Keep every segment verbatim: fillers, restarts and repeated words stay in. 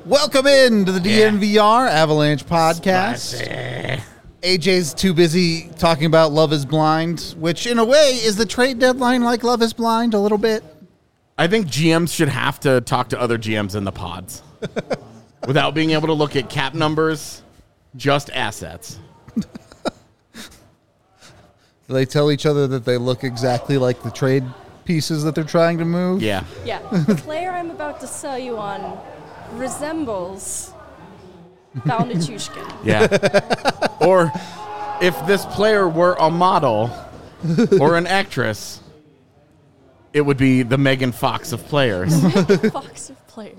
Welcome in to the D N V R Avalanche podcast. Spicy. A J's too busy talking about Love is Blind, which in a way is the trade deadline like Love is Blind a little bit. I think G Ms should have to talk to other G Ms in the pods without being able to look at cap numbers, just assets. Do they tell each other that they look exactly like the trade pieces that they're trying to move? Yeah. Yeah, the player I'm about to sell you on resembles Val Nichushkin. Yeah. Or if this player were a model or an actress, it would be the Megan Fox of players. Fox of players.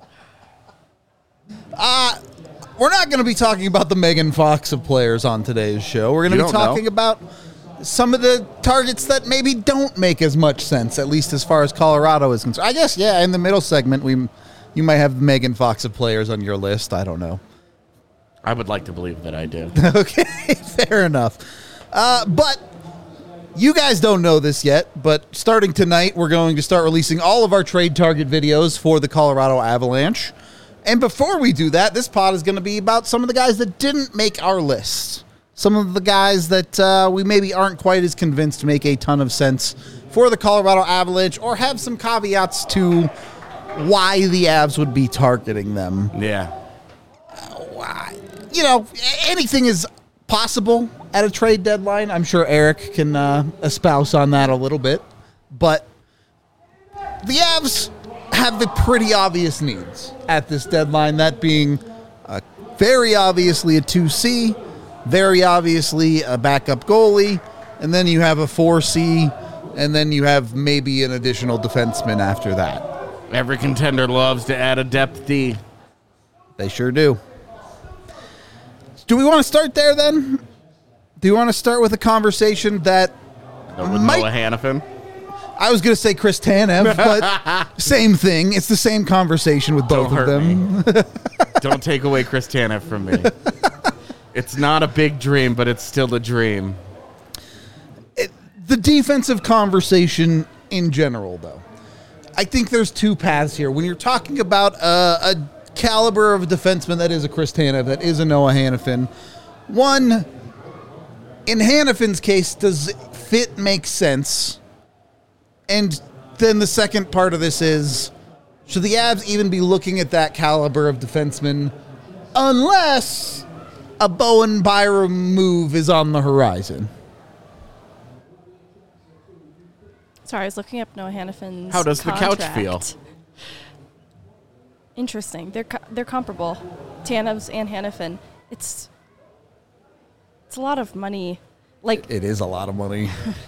Uh, we're not going to be talking about the Megan Fox of players on today's show. We're going You to be don't know. talking about some of the targets that maybe don't make as much sense, at least as far as Colorado is concerned. I guess, yeah, in the middle segment, we you might have Megan Fox of players on your list. I don't know. I would like to believe that I do. Okay, fair enough. Uh, but you guys don't know this yet, but starting tonight, we're going to start releasing all of our trade target videos for the Colorado Avalanche. And before we do that, this pod is going to be about some of the guys that didn't make our list. Some of the guys that uh, we maybe aren't quite as convinced make a ton of sense for the Colorado Avalanche or have some caveats to why the Avs would be targeting them. Yeah. Why? You know, anything is possible at a trade deadline. I'm sure Eric can uh, espouse on that a little bit. But the Avs have the pretty obvious needs at this deadline, that being uh, very obviously a two C, very obviously a backup goalie, and then you have a four C, and then you have maybe an additional defenseman after that. Every contender loves to add a depth D. They sure do. Do we want to start there then? Do you want to start with a conversation that With might- Noah Hannafin. I was going to say Chris Tanev, but same thing. It's the same conversation with both Don't of hurt them. Don't take away Chris Tanev from me. It's not a big dream, but it's still a dream. It, the defensive conversation in general, though, I think there's two paths here. When you're talking about a, a caliber of a defenseman that is a Chris Tanev, that is a Noah Hannafin, one, in Hannafin's case, does fit make sense? And then the second part of this is, should the Avs even be looking at that caliber of defenseman unless a Bowen Byram move is on the horizon? Sorry, I was looking up Noah Hannafin's How does the couch contract. feel? Interesting. They're co- they're comparable. Tanev's and Hannafin. It's it's a lot of money. Like, It is a lot of money.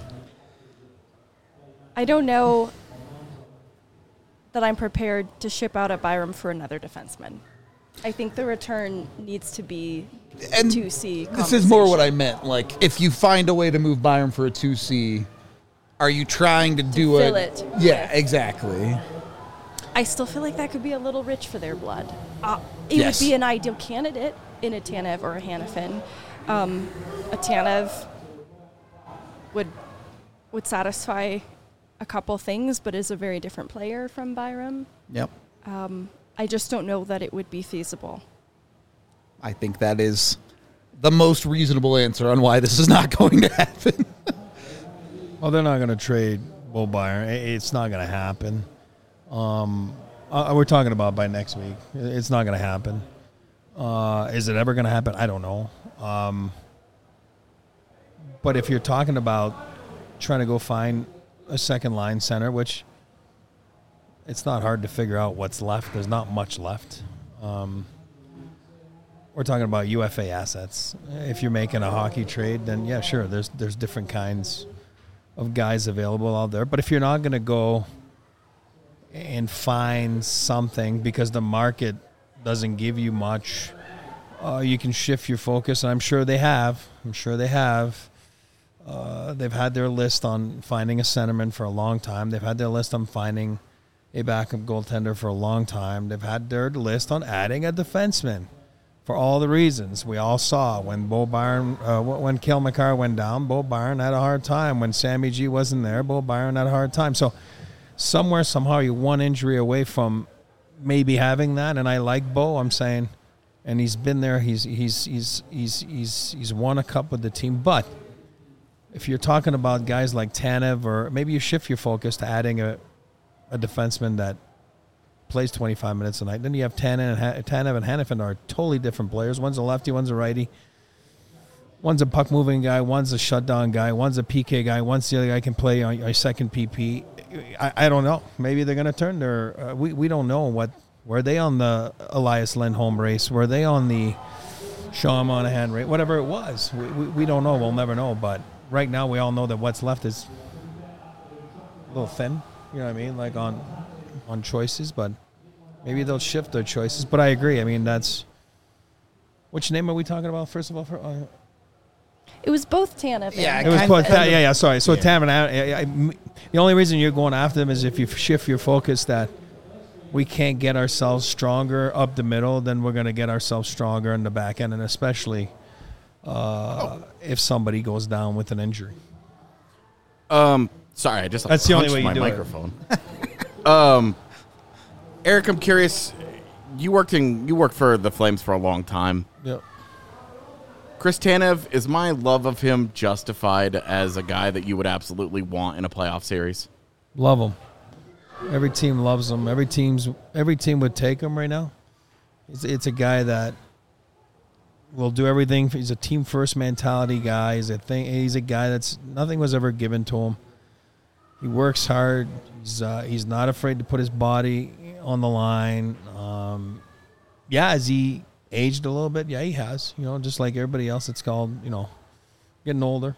I don't know that I'm prepared to ship out at Byram for another defenseman. I think the return needs to be And two C. This is more what I meant. Like, if you find a way to move Byram for a two C, are you trying to, do fill it? it. Yeah, exactly. I still feel like that could be a little rich for their blood. Uh, it Yes. would be an ideal candidate in a Tanev or a Hannafin. Um, a Tanev would would satisfy a couple things, but is a very different player from Byram. Yep. I just don't know that it would be feasible. I think that is the most reasonable answer on why this is not going to happen. Well, they're not going to trade Bo Byron. I- It's not going to happen. Um, uh, we're talking about by next week. It's not going to happen. Uh, is it ever going to happen? I don't know. Um, but if you're talking about trying to go find a second line center, which it's not hard to figure out what's left. There's not much left. Um, we're talking about U F A assets. If you're making a hockey trade, then yeah, sure. There's there's different kinds of guys available out there. But if you're not going to go and find something because the market doesn't give you much, uh, you can shift your focus. And I'm sure they have. I'm sure they have. Uh, they've had their list on finding a centerman for a long time. They've had their list on finding a backup goaltender for a long time. They've had their list on adding a defenseman for all the reasons we all saw. When Bo Byron, uh, when Cale Makar went down, Bo Byron had a hard time. When Sammy G wasn't there, Bo Byron had a hard time. So somewhere, somehow, you're one injury away from maybe having that, and I like Bo. I'm saying, and he's been there. He's he's he's he's he's he's won a cup with the team. But if you're talking about guys like Tanev, or maybe you shift your focus to adding a a defenseman that plays twenty-five minutes a night, then you have Tanev and Tanev and Hanifin are totally different players. One's a lefty, one's a righty. One's a puck moving guy, one's a shutdown guy, one's a P K guy, one's the other guy can play on a second P P. I, I don't know. Maybe they're going to turn their. Uh, we we don't know what. Were they on the Elias Lindholm race? Were they on the Sean Monahan race? Whatever it was, we, we we don't know. We'll never know. But right now, we all know that what's left is a little thin. You know what I mean? Like on on choices, but maybe they'll shift their choices. But I agree. I mean, that's. Which name are we talking about? First of all, for. Uh, It was both Tanev. Yeah, and It was Kind both. of- Yeah, yeah. Sorry. So Yeah. Tam and I, I, I- the only reason you're going after them is if you shift your focus that we can't get ourselves stronger up the middle, then we're going to get ourselves stronger in the back end, and especially uh, if somebody goes down with an injury. Um, sorry, I just That's the only punched way you my do it. microphone. um, Eric, I'm curious. You worked in you worked for the Flames for a long time. Yep. Chris Tanev, is my love of him justified as a guy that you would absolutely want in a playoff series? Love him. Every team loves him. Every team's every team would take him right now. It's it's a guy that will do everything. He's a team first mentality guy. He's a thing. He's a guy that's nothing was ever given to him. He works hard. He's uh, he's not afraid to put his body on the line. Um, yeah, has he aged a little bit? Yeah, he has. You know, just like everybody else. It's called you know, getting older.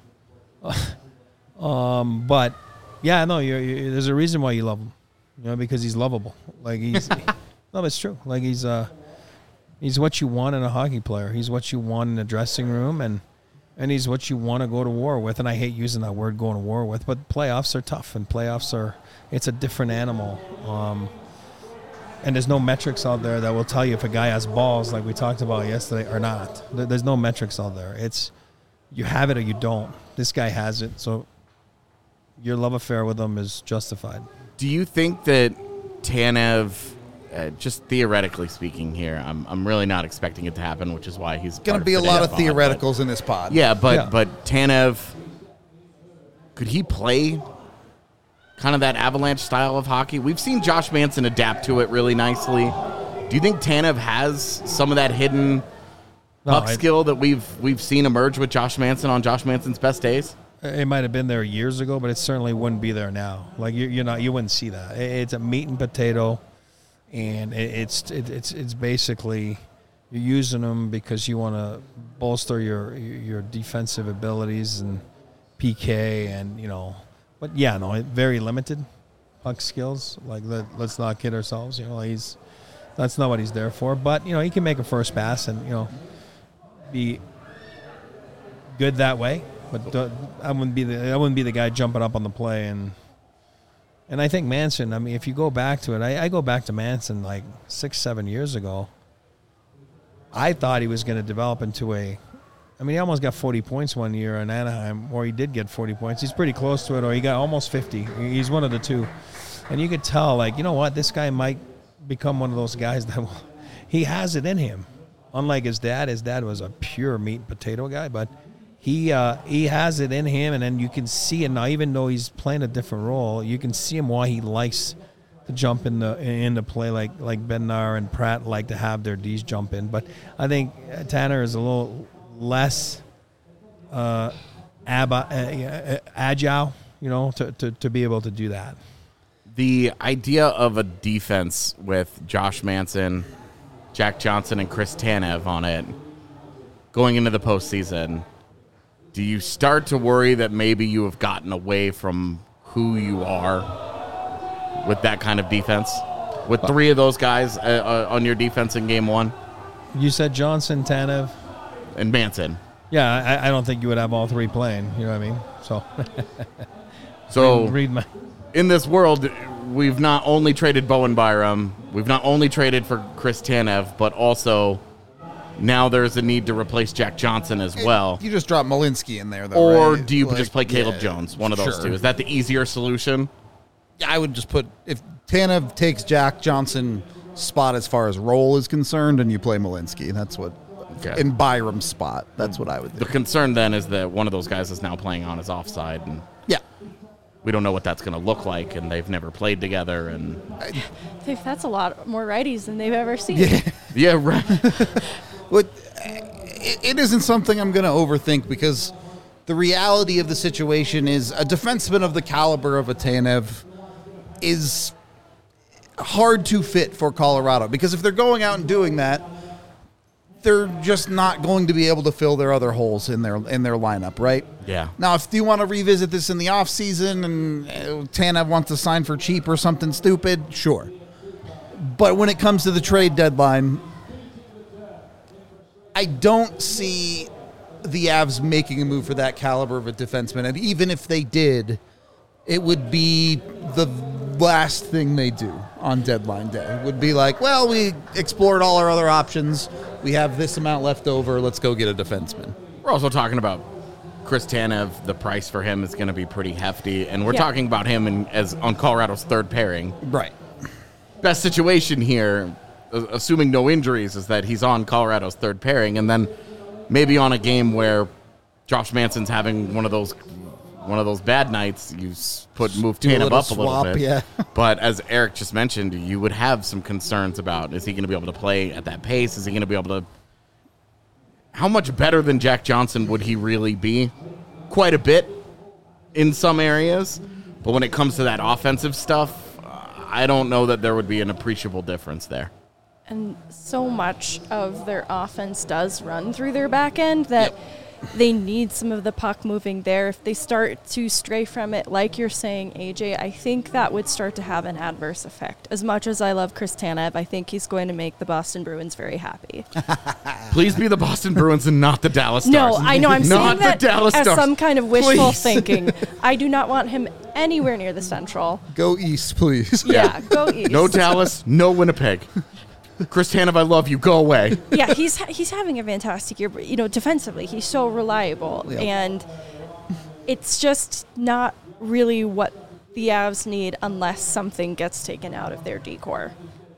um, but yeah, no, you're, you're, there's a reason why you love him. You know, because he's lovable. Like he's no, it's true. Like he's uh, he's what you want in a hockey player. He's what you want in a dressing room, and and he's what you want to go to war with. And I hate using that word, going to war with, but playoffs are tough, and playoffs are it's a different animal. Um, and there's no metrics out there that will tell you if a guy has balls, like we talked about yesterday, or not. There- There's no metrics out there. It's you have it or you don't. This guy has it, so your love affair with him is justified. Do you think that Tanev, uh, just theoretically speaking here, I'm I'm really not expecting it to happen, which is why he's Going part to be a of lot of today's pod, but- theoreticals in this pod. Yeah, but Yeah. but Tanev, could he play kind of that Avalanche style of hockey? We've seen Josh Manson adapt to it really nicely. Do you think Tanev has some of that hidden No, puck I- skill that we've we've seen emerge with Josh Manson on Josh Manson's best days? It might have been there years ago, but it certainly wouldn't be there now. Like you, you're not, you wouldn't see that. It- It's a meat and potato, and it, it's it, it's it's basically you're using them because you want to bolster your your defensive abilities and P K and you know. But yeah, no, it- very limited puck skills. Like let, let's not kid ourselves. You know, he's that's not what he's there for. But you know, he can make a first pass and you know be good that way. But uh, I wouldn't be the I wouldn't be the guy jumping up on the play and and I think Manson. I mean, if you go back to it, I, I go back to Manson like six seven years ago. I thought he was going to develop into a. I mean, he almost got forty points one year in Anaheim, or he did get forty points. He's pretty close to it, or he got almost fifty. He's one of the two, and you could tell, like, you know what, this guy might become one of those guys that will, he has it in him. Unlike his dad, his dad was a pure meat and potato guy, but. He uh, he has it in him, and then you can see it now. Even though he's playing a different role, you can see him why he likes to jump in the in the play like like Bednar and Pratt like to have their D's jump in. But I think Tanner is a little less uh, ab- uh, agile, you know, to, to, to be able to do that. The idea of a defense with Josh Manson, Jack Johnson, and Chris Tanev on it going into the postseason. Do you start to worry that maybe you have gotten away from who you are with that kind of defense? With three of those guys uh, uh, on your defense in game one? You said Johnson, Tanev. And Manson. Yeah, I, I don't think you would have all three playing. You know what I mean? So, So read my. in this world, we've not only traded Bowen Byram, we've not only traded for Chris Tanev, but also now there's a need to replace Jack Johnson as well. You just drop Malinsky in there, though. Or right? do you Like, just play Caleb yeah, Jones? One of those sure. two. Is that the easier solution? Yeah, I would just put if Tanev takes Jack Johnson spot as far as role is concerned, and you play Malinsky. That's what Okay. in Byram's spot. That's what I would The do. concern then is that one of those guys is now playing on his offside, and Yeah. we don't know what that's going to look like, and they've never played together. And If that's a lot more righties than they've ever seen. Yeah. yeah, right. But it, it isn't something I'm going to overthink because the reality of the situation is a defenseman of the caliber of a Tanev is hard to fit for Colorado because if they're going out and doing that, they're just not going to be able to fill their other holes in their in their lineup, right? Yeah. Now, if you want to revisit this in the offseason and uh, Tanev wants to sign for cheap or something stupid, sure. But when it comes to the trade deadline, I don't see the Avs making a move for that caliber of a defenseman. And even if they did, it would be the last thing they do on deadline day. It would be like, well, we explored all our other options. We have this amount left over. Let's go get a defenseman. We're also talking about Chris Tanev. The price for him is going to be pretty hefty, and we're Yeah. talking about him in, as on Colorado's third pairing. Right. Best situation here, uh, assuming no injuries, is that he's on Colorado's third pairing, and then maybe on a game where Josh Manson's having one of those one of those bad nights, you s- put move Do a Tanev little up a little swap, bit. yeah. But as Eric just mentioned, you would have some concerns about, is he going to be able to play at that pace? Is he going to be able to... How much better than Jack Johnson would he really be? Quite a bit in some areas. But when it comes to that offensive stuff, I don't know that there would be an appreciable difference there. And so much of their offense does run through their back end that they need some of the puck moving there. If they start to stray from it, like you're saying, A J, I think that would start to have an adverse effect. As much as I love Chris Tanev, I think he's going to make the Boston Bruins very happy. Please be the Boston Bruins and not the Dallas No, Stars. I know I'm not saying that the Dallas as Stars. some kind of wishful Please. thinking. I do not want him anywhere near the Central. Go east, please. Yeah, go east. No Dallas, no Winnipeg. Chris Tanev, I love you. Go away. Yeah, he's he's having a fantastic year. But, you know, defensively, he's so reliable, Yep. and it's just not really what the Avs need unless something gets taken out of their decor.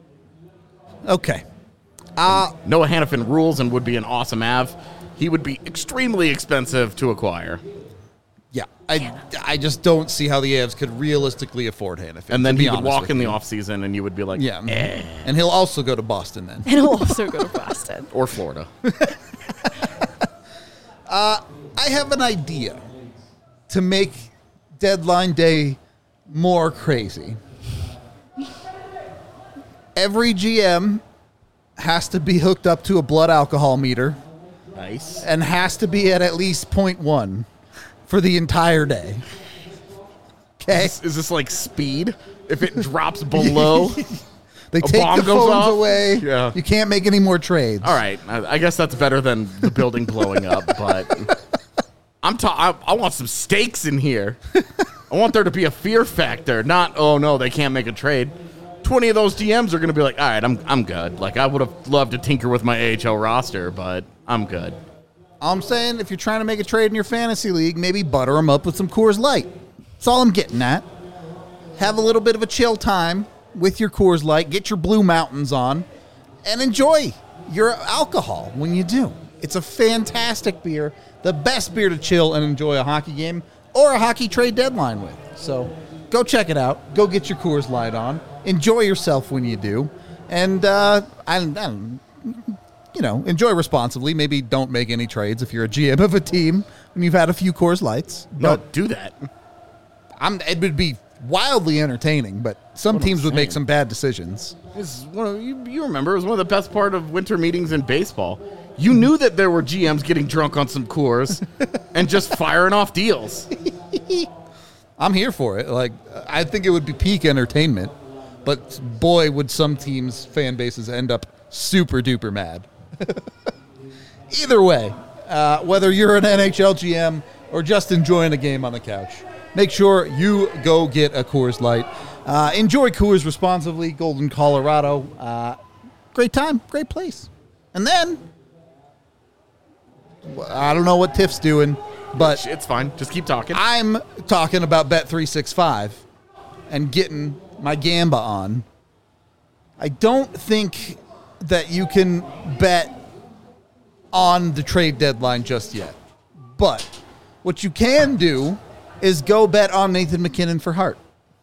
Okay. Uh, Noah Hannafin rules and would be an awesome Av. He would be extremely expensive to acquire. yeah. I, I just don't see how the Avs could realistically afford Hannafin. And then to be he would honest walk with in the you. offseason and you would be like, Yeah. eh. And he'll also go to Boston then. And he'll also go to Boston. Or Florida. I have an idea to make deadline day more crazy. Every G M has to be hooked up to a blood alcohol meter Nice. and has to be at at least point one for the entire day. Okay? Is, is this like speed? If it drops below? They A take bomb the goes phones off? away. Yeah. You can't make any more trades. All right. I, I guess that's better than the building blowing up, but I'm ta- I, I want some stakes in here. I want there to be a fear factor, not, oh no, they can't make a trade. twenty of those D Ms are going to be like, all right, I'm I'm good. Like, I would have loved to tinker with my A H L roster, but I'm good. All I'm saying, if you're trying to make a trade in your fantasy league, maybe butter them up with some Coors Light. That's all I'm getting at. Have a little bit of a chill time with your Coors Light. Get your Blue Mountains on and enjoy your alcohol when you do. It's a fantastic beer, the best beer to chill and enjoy a hockey game or a hockey trade deadline with. So go check it out. Go get your Coors Light on. Enjoy yourself when you do. And, uh, I, I don't you know, enjoy responsibly. Maybe don't make any trades if you're a G M of a team when you've had a few Coors Lights. No, But do that. I'm, it would be wildly entertaining, but some What I'm teams would make saying. some bad decisions. This is one of, you, you remember, it was one of the best part of winter meetings in baseball. You knew that there were G Ms getting drunk on some Coors and just firing off deals. I'm here for it. Like, I think it would be peak entertainment, but boy, would some teams' fan bases end up super duper mad. Either way, uh, whether you're an N H L G M or just enjoying a game on the couch, make sure you go get a Coors Light. Uh, enjoy Coors responsibly. Golden, Colorado. Uh, great time, great place. And then, I don't know what Tiff's doing, but It's fine. Just keep talking. I'm talking about Bet three sixty-five and getting my Gamba on I don't think that you can bet on the trade deadline just yet. But what you can do is go bet on Nathan MacKinnon for Hart.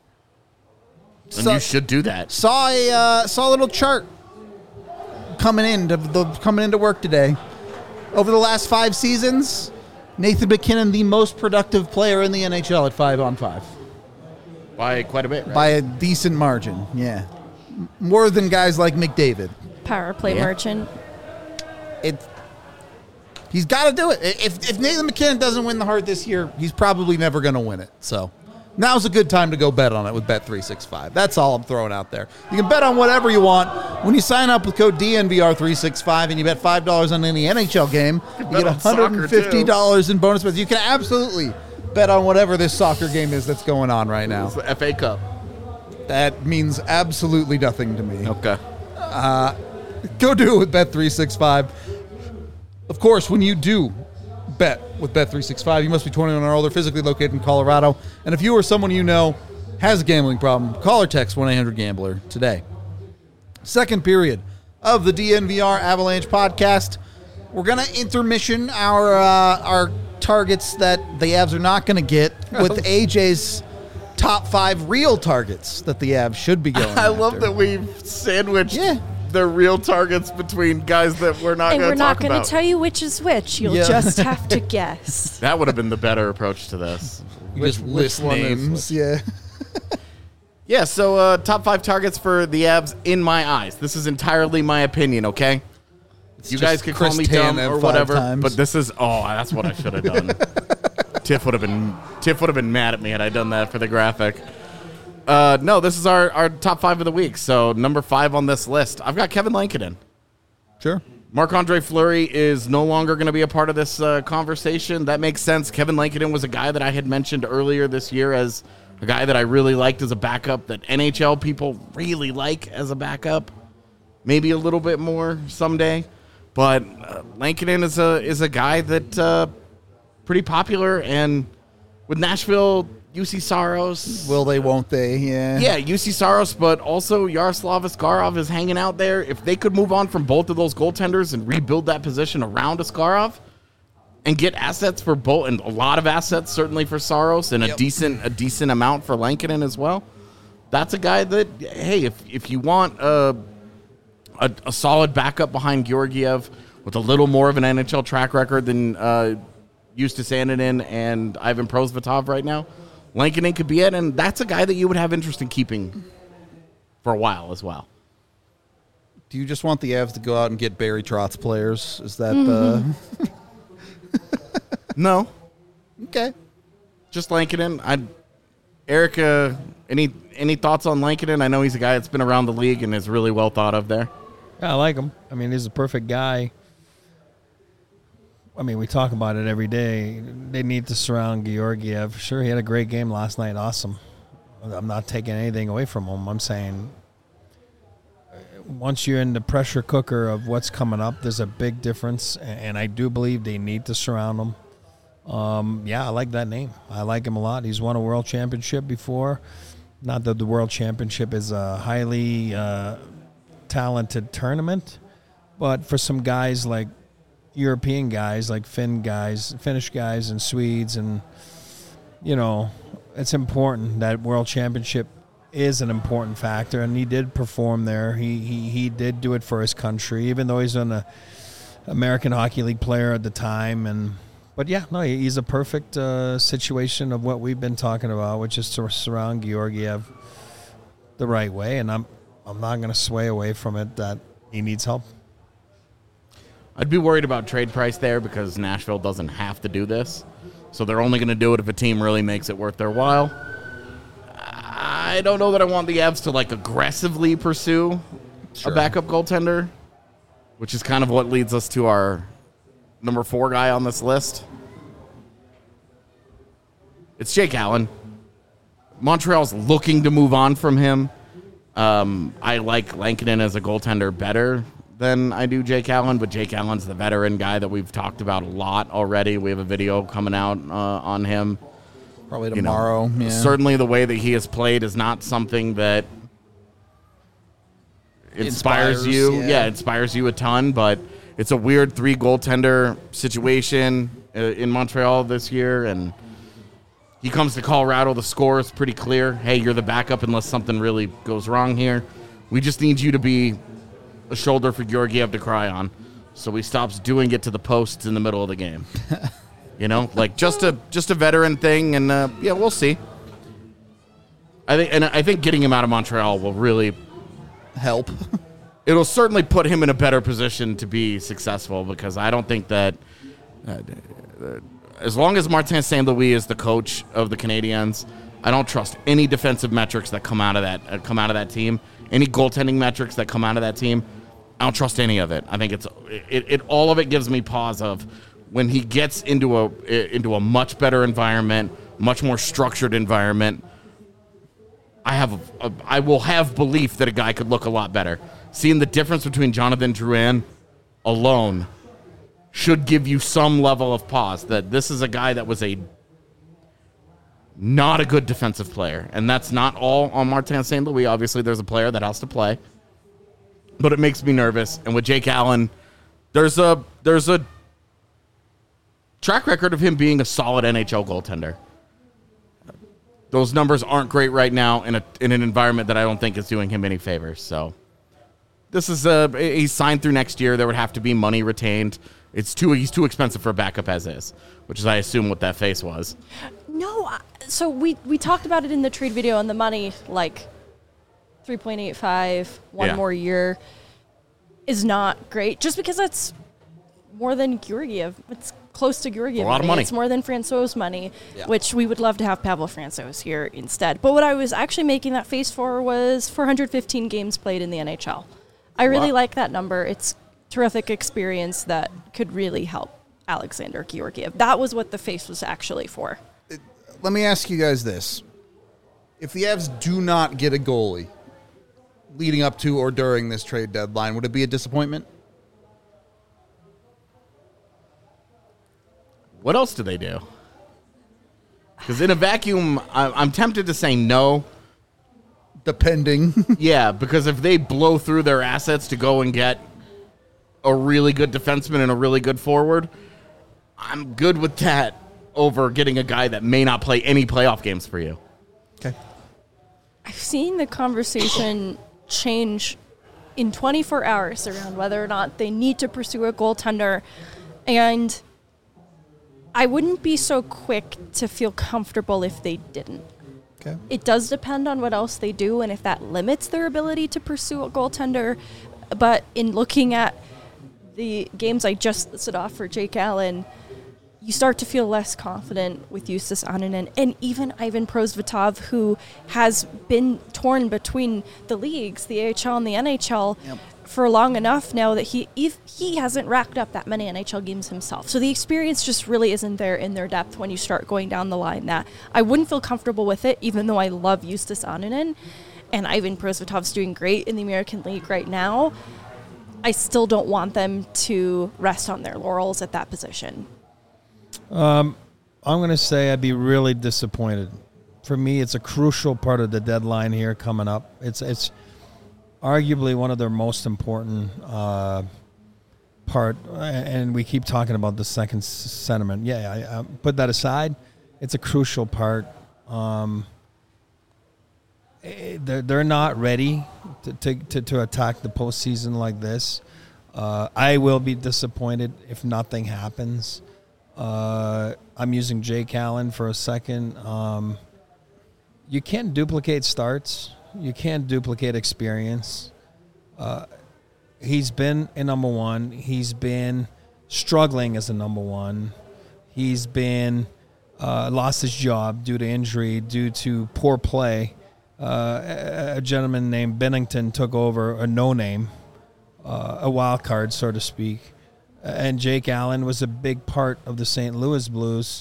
And So- you should do that. Saw a uh, saw a little chart coming into the coming into work today. Over the last five seasons, Nathan MacKinnon the most productive player in the N H L at five on five By quite a bit, right? by a decent margin. Yeah, M- more than guys like McDavid. Power play Yeah. merchant. It. He's got to do it. If if Nathan MacKinnon doesn't win the Hart this year, he's probably never going to win it. So. Now's a good time to go bet on it with Bet three sixty-five. That's all I'm throwing out there. You can bet on whatever you want. When you sign up with code D N V R three sixty-five and you bet five dollars on any N H L game, you, bet get on soccer, one hundred fifty dollars in bonus bets. You can absolutely bet on whatever this soccer game is that's going on right now. It's the F A Cup. That means absolutely nothing to me. Okay. Go do it with Bet three sixty-five. Of course, when you do bet with Bet three sixty-five, you must be twenty-one or older, physically located in Colorado. And if you or someone you know has a gambling problem, call or text one eight hundred gambler today. Second period of the D N V R Avalanche podcast. We're going to intermission our uh, our targets that the Avs are not going to get with A J's top five real targets that the Avs should be going I love after. that we've sandwiched Yeah. the real targets between guys that we're not And going we're to not talk going to about. tell you which is which. You'll Yeah. just have to guess. That would have been the better approach to this. You Which- just which list one is names. which? Yeah. Yeah, so uh, top five targets for the Avs in my eyes. This is entirely my opinion, okay? you just guys can call Chris me dumb Tanev or five whatever, times. but this is oh, that's what I should have done. Tiff would have been Tiff would have been mad at me had I done that for the graphic. Uh, no, this is our, our top five of the week. So number five on this list, I've got Kevin Lankinen. Sure. Marc-Andre Fleury is no longer going to be a part of this uh, conversation. That makes sense. Kevin Lankinen was a guy that I had mentioned earlier this year as a guy that I really liked as a backup, that N H L people really like as a backup. Maybe a little bit more someday. But uh, Lankinen is a is a guy that uh, pretty popular. And with Nashville, U C Saros. Will they, won't they? Yeah. Yeah, U C Saros, but also Yaroslav Askarov is hanging out there. If they could move on from both of those goaltenders and rebuild that position around Askarov and get assets for both, and a lot of assets certainly for Saros, and a Yep. decent a decent amount for Lankinen as well, that's a guy that, hey, if if you want a, a, a solid backup behind Georgiev with a little more of an N H L track record than uh, Justus Annunen and Ivan Prosvetov right now, Lankinen could be it, and that's a guy that you would have interest in keeping for a while as well. Do you just want the Avs to go out and get Barry Trotz players? Is that the No, okay? just Lankinen. I, Erica, any any thoughts on Lankinen? I know he's a guy that's been around the league and is really well thought of there. Yeah, I like him. I mean, he's a perfect guy. I mean, we talk about it every day. They need to surround Georgiev. Sure, he had a great game last night. Awesome. I'm not taking anything away from him. I'm saying uh, once you're in the pressure cooker of what's coming up, there's a big difference, and I do believe they need to surround him. Um, yeah, I like that name. I like him a lot. He's won a world championship before. Not that the world championship is a highly uh, talented tournament, but for some guys like European guys, like Finn guys, Finnish guys and Swedes, and, you know, it's important that world championship is an important factor, and he did perform there. He he, he did do it for his country, even though he's an uh, American Hockey League player at the time. And But, yeah, no, he's a perfect uh, situation of what we've been talking about, which is to surround Georgiev the right way, and I'm I'm not going to sway away from it that he needs help. I'd be worried about trade price there because Nashville doesn't have to do this. So they're only going to do it if a team really makes it worth their while. I don't know that I want the Avs to, like, aggressively pursue Sure. a backup goaltender, which is kind of what leads us to our number four guy on this list. It's Jake Allen. Montreal's looking to move on from him. Um, I like Lankinen as a goaltender better than I do Jake Allen, but Jake Allen's the veteran guy that we've talked about a lot already. We have a video coming out uh, on him. Probably You know, tomorrow. yeah. Certainly the way that he has played is not something that inspires, Inspires, you. yeah. Yeah. inspires you a ton. But it's a weird three goaltender situation uh, in Montreal this year, and he comes to Colorado. The score is pretty clear. Hey, you're the backup unless something really goes wrong here. We just need you to be a shoulder for Georgiev to cry on, so he stops doing it to the posts in the middle of the game. You know, like just a just a veteran thing, and uh, yeah, we'll see. I think, and I think getting him out of Montreal will really Help. It'll certainly put him in a better position to be successful, because I don't think that uh, uh, as long as Martin Saint Louis is the coach of the Canadiens, I don't trust any defensive metrics that come out of that uh, come out of that team. Any goaltending metrics that come out of that team, I don't trust any of it. I think it's it, it all of it gives me pause of when he gets into a into a much better environment, much more structured environment. I have a, a, I will have belief that a guy could look a lot better. Seeing the difference between Jonathan Drouin alone should give you some level of pause that this is a guy that was a not a good defensive player. And that's not all on Martin Saint Louis. Obviously, there's a player that has to play. But it makes me nervous. And with Jake Allen, there's a there's a track record of him being a solid N H L goaltender. Those numbers aren't great right now in a in an environment that I don't think is doing him any favors. So this is a he's signed through next year. There would have to be money retained. It's too he's too expensive for a backup as is, which is I assume what that face was. No, I- so we, we talked about it in the trade video, and the money, like three point eight five, one Yeah. more year, is not great. Just because that's more than Georgiev. It's close to Georgiev A lot of money. It's more than Francois' money, Yeah. which we would love to have Pavel Francois here instead. But what I was actually making that face for was four hundred fifteen games played in the N H L. I really Wow. like that number. It's terrific experience that could really help Alexander Georgiev. That was what the face was actually for. Let me ask you guys this. If the Avs do not get a goalie leading up to or during this trade deadline, would it be a disappointment? What else do they do? Because in a vacuum, I- I'm tempted to say no. Depending. Yeah, because if they blow through their assets to go and get a really good defenseman and a really good forward, I'm good with that over getting a guy that may not play any playoff games for you. Okay. I've seen the conversation change in twenty-four hours around whether or not they need to pursue a goaltender, and I wouldn't be so quick to feel comfortable if they didn't. Okay. It does depend on what else they do and if that limits their ability to pursue a goaltender. But in looking at the games I just listed off for Jake Allen, you start to feel less confident with Justus Annunen and even Ivan Prosvetov, who has been torn between the leagues, the A H L and the N H L, Yep. for long enough now that he if he hasn't racked up that many N H L games himself. So the experience just really isn't there in their depth when you start going down the line. That I wouldn't feel comfortable with it, even though I love Justus Annunen, and Ivan Prosvetov's doing great in the American League right now. I still don't want them to rest on their laurels at that position. I'm going to say I'd be really disappointed. For me, it's a crucial part of the deadline here coming up. It's it's arguably one of their most important uh, part, and we keep talking about the second s- sentiment. Yeah, I, I put that aside. It's a crucial part. Um, eh, they're they're not ready to to, to, to attack the postseason like this. Uh, I will be disappointed if nothing happens. Uh, I'm using Jake Allen for a second. Um, you can't duplicate starts. You can't duplicate experience. Uh, he's been a number one. He's been struggling as a number one. He's been uh, lost his job due to injury, due to poor play. Uh, a, a gentleman named Bennington took over, a no-name, uh, a wild card, so to speak. And Jake Allen was a big part of the Saint Louis Blues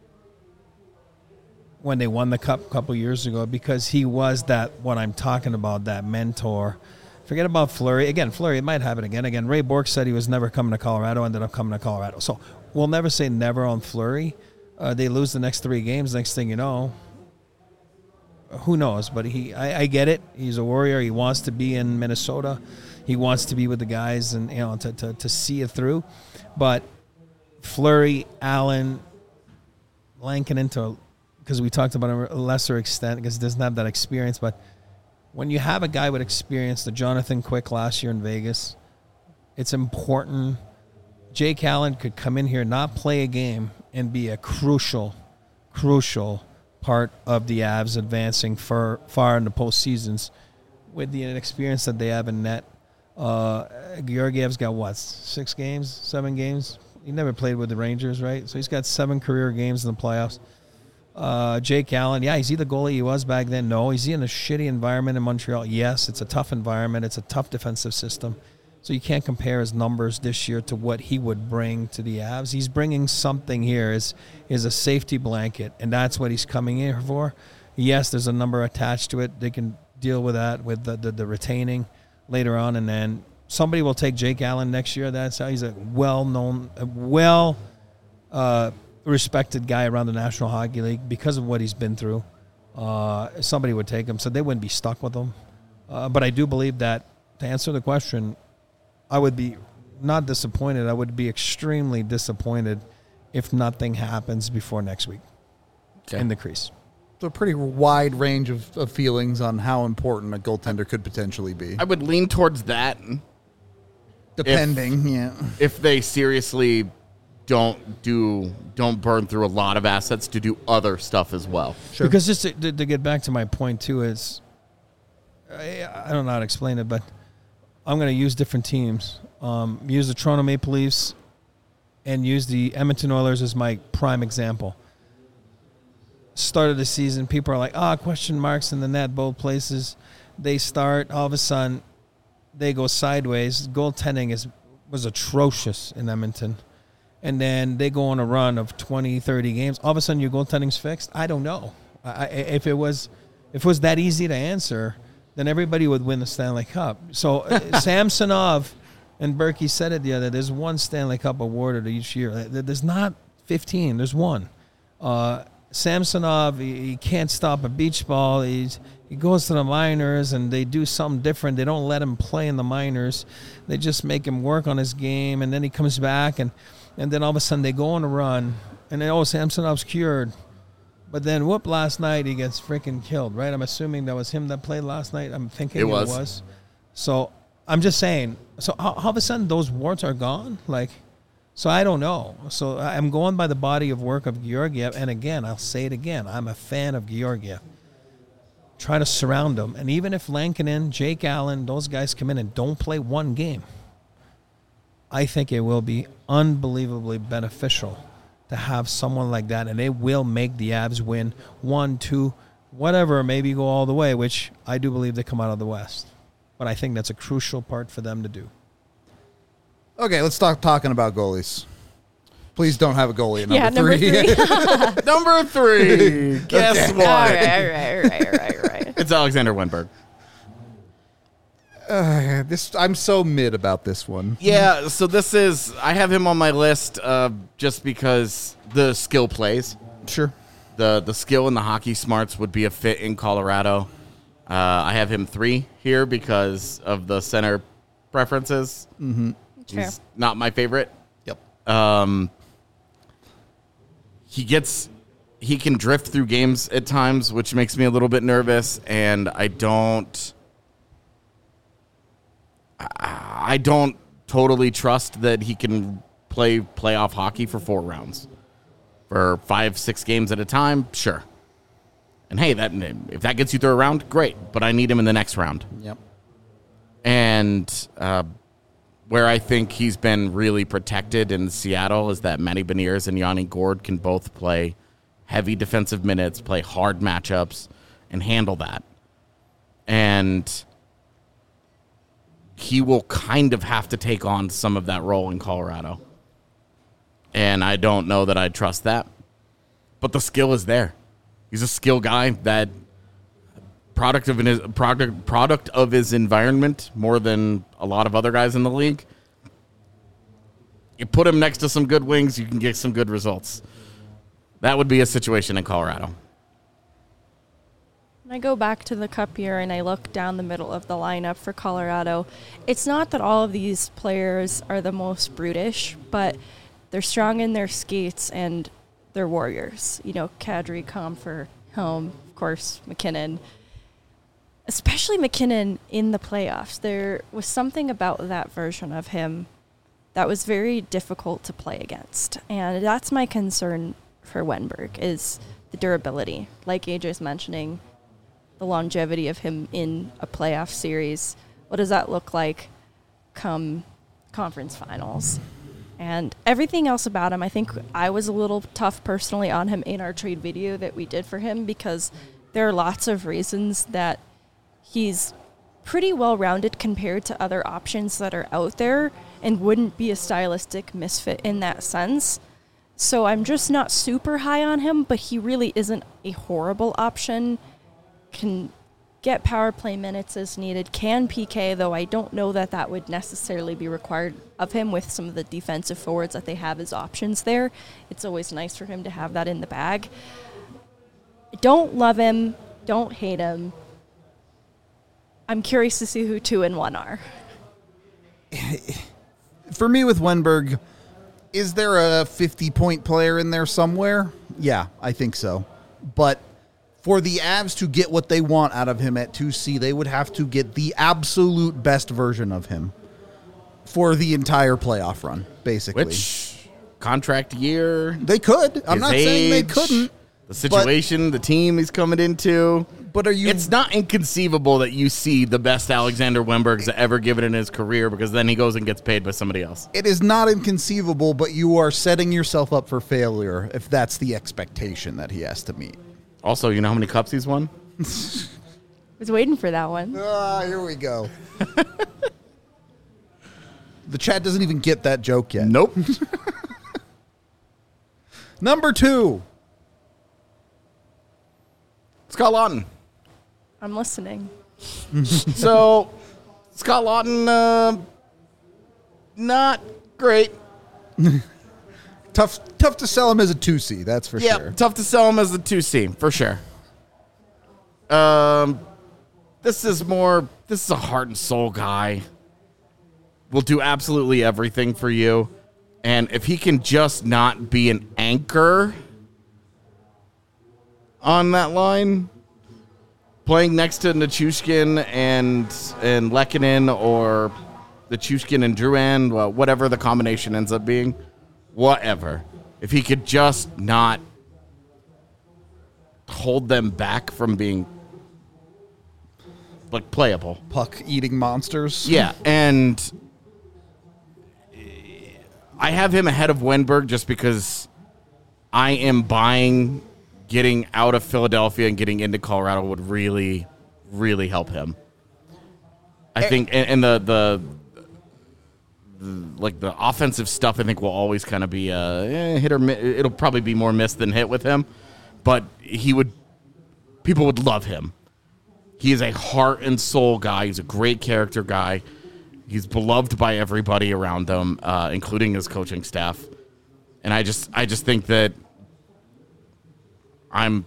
when they won the Cup a couple years ago, because he was that, what I'm talking about, that mentor. Forget about Fleury. Again, Fleury, it might happen again. Again, Ray Bourque said he was never coming to Colorado, ended up coming to Colorado. So we'll never say never on Fleury. Uh, they lose the next three games. Next thing you know, who knows? But he, I, I get it. He's a warrior. He wants to be in Minnesota. He wants to be with the guys and, you know, to, to, to see it through. But Fleury, Allen, Lankinen to, because we talked about a lesser extent because he doesn't have that experience. But when you have a guy with experience, the Jonathan Quick last year in Vegas, it's important. Jake Allen could come in here, not play a game, and be a crucial, crucial part of the Avs advancing far, far in the postseasons with the experience that they have in net. Uh, Georgiev's got, what, six games, seven games? He never played with the Rangers, right? So he's got seven career games in the playoffs. Uh, Jake Allen, yeah, is he the goalie he was back then? No. Is he in a shitty environment in Montreal? Yes, it's a tough environment. It's a tough defensive system. So you can't compare his numbers this year to what he would bring to the Avs. He's bringing something here is is a safety blanket, and that's what he's coming here for. Yes, there's a number attached to it. They can deal with that with the, the, the retaining later on, and then somebody will take Jake Allen next year. That's how he's a well-known, a well uh, respected guy around the National Hockey League because of what he's been through. Uh, somebody would take him, so they wouldn't be stuck with him. Uh, but I do believe that, to answer the question, I would be not disappointed. I would be extremely disappointed if nothing happens before next week okay. in the crease. So a pretty wide range of, of feelings on how important a goaltender could potentially be. I would lean towards that. Depending, if, yeah. If they seriously don't do don't burn through a lot of assets to do other stuff as well. Sure. Because just to, to, to get back to my point too is, I, I don't know how to explain it, but I'm going to use different teams. Um, use the Toronto Maple Leafs and use the Edmonton Oilers as my prime example. Start of the season, people are like, ah, oh, question marks in the net, both places. They start, all of a sudden, they go sideways. Goaltending is was atrocious in Edmonton. And then they go on a run of twenty, thirty games. All of a sudden, your goaltending's fixed? I don't know. I, if it was if it was that easy to answer, then everybody would win the Stanley Cup. So uh, Samsonov and Berkey said it the other day, there's one Stanley Cup awarded each year. There's not fifteen. There's one. Uh, Samsonov, he, he can't stop a beach ball. He's, he goes to the minors, and they do something different. They don't let him play in the minors. They just make him work on his game, and then he comes back, and, and then all of a sudden they go on a run, and then, oh, Samsonov's cured. But then, whoop, last night he gets freaking killed, right? I'm assuming that was him that played last night. I'm thinking it was. It was. So I'm just saying, so all, all of a sudden those warts are gone? Like, so I don't know. So I'm going by the body of work of Georgiev. And again, I'll say it again, I'm a fan of Georgiev. Try to surround him. And even if Lankinen, Jake Allen, those guys come in and don't play one game, I think it will be unbelievably beneficial to have someone like that, and it will make the Avs win one, two, whatever, maybe go all the way, which I do believe they come out of the West. But I think that's a crucial part for them to do. Okay, let's start talking about goalies. Please don't have a goalie at number yeah, three. Number three. Number three. Guess Okay. what? All right, all right, all right, all right, all right. It's Alexander Wenberg. Uh, this I'm so mid about this one. Yeah, so this is, I have him on my list uh, just because the skill plays. Sure. The the skill and the hockey smarts would be a fit in Colorado. Uh, I have him three here because of the center preferences. Mm-hmm. He's not my favorite. Yep. Um, he gets, he can drift through games at times, which makes me a little bit nervous, and I don't... I don't totally trust that he can play playoff hockey for four rounds. For five, six games at a time, sure. And hey, that if that gets you through a round, great. But I need him in the next round. Yep. And uh, where I think he's been really protected in Seattle is that Matty Beniers and Yanni Gourde can both play heavy defensive minutes, play hard matchups, and handle that. And he will kind of have to take on some of that role in Colorado. And I don't know that I trust that. But the skill is there. He's a skill guy that product of his product product of his environment more than a lot of other guys in the league. You put him next to some good wings, you can get some good results. That would be a situation in Colorado. When I go back to the Cup year and I look down the middle of the lineup for Colorado, it's not that all of these players are the most brutish, but they're strong in their skates and they're warriors. You know, Kadri, Comfer, Helm, of course, McKinnon. Especially McKinnon in the playoffs. There was something about that version of him that was very difficult to play against. And that's my concern for Wenberg, is the durability. Like A J's mentioning, the longevity of him in a playoff series. What does that look like come conference finals? And everything else about him, I think I was a little tough personally on him in our trade video that we did for him, because there are lots of reasons that he's pretty well-rounded compared to other options that are out there and wouldn't be a stylistic misfit in that sense. So I'm just not super high on him, but he really isn't a horrible option. Can get power play minutes as needed, can P K, though I don't know that that would necessarily be required of him with some of the defensive forwards that they have as options there. It's always nice for him to have that in the bag. Don't love him, don't hate him. I'm curious to see who two and one are. For me with Wenberg, is there a fifty-point player in there somewhere? Yeah, I think so. But for the Avs to get what they want out of him at two C, they would have to get the absolute best version of him for the entire playoff run, basically. Which contract year? They could. I'm his not saying they age, couldn't. The situation, the team he's coming into. But are you? It's not inconceivable that you see the best Alexander Wenberg's ever given in his career, because then he goes and gets paid by somebody else. It is not inconceivable, but you are setting yourself up for failure if that's the expectation that he has to meet. Also, you know how many cups he's won? I was waiting for that one. Ah, here we go. The chat doesn't even get that joke yet. Nope. Number two. Scott Laughton. I'm listening. So, Scott Laughton, uh, not great. Tough tough to sell him as a two C, that's for Yeah, sure. tough to sell him as a two C, for sure. Um, this is more, this is a heart and soul guy. Will do absolutely everything for you. And if he can just not be an anchor on that line, playing next to Nichushkin and and Lehkonen, or Nichushkin and Drouin, well, whatever the combination ends up being, whatever. If he could just not hold them back from being like playable. Puck eating monsters. Yeah, and I have him ahead of Wenberg just because I am buying getting out of Philadelphia and getting into Colorado would really, really help him. I think, and, and the, the the like the offensive stuff, I think will always kind of be a eh, hit or miss. It'll probably be more miss than hit with him, but he would, people would love him. He is a heart and soul guy. He's a great character guy. He's beloved by everybody around him, uh, including his coaching staff. And I just, I just think that I'm,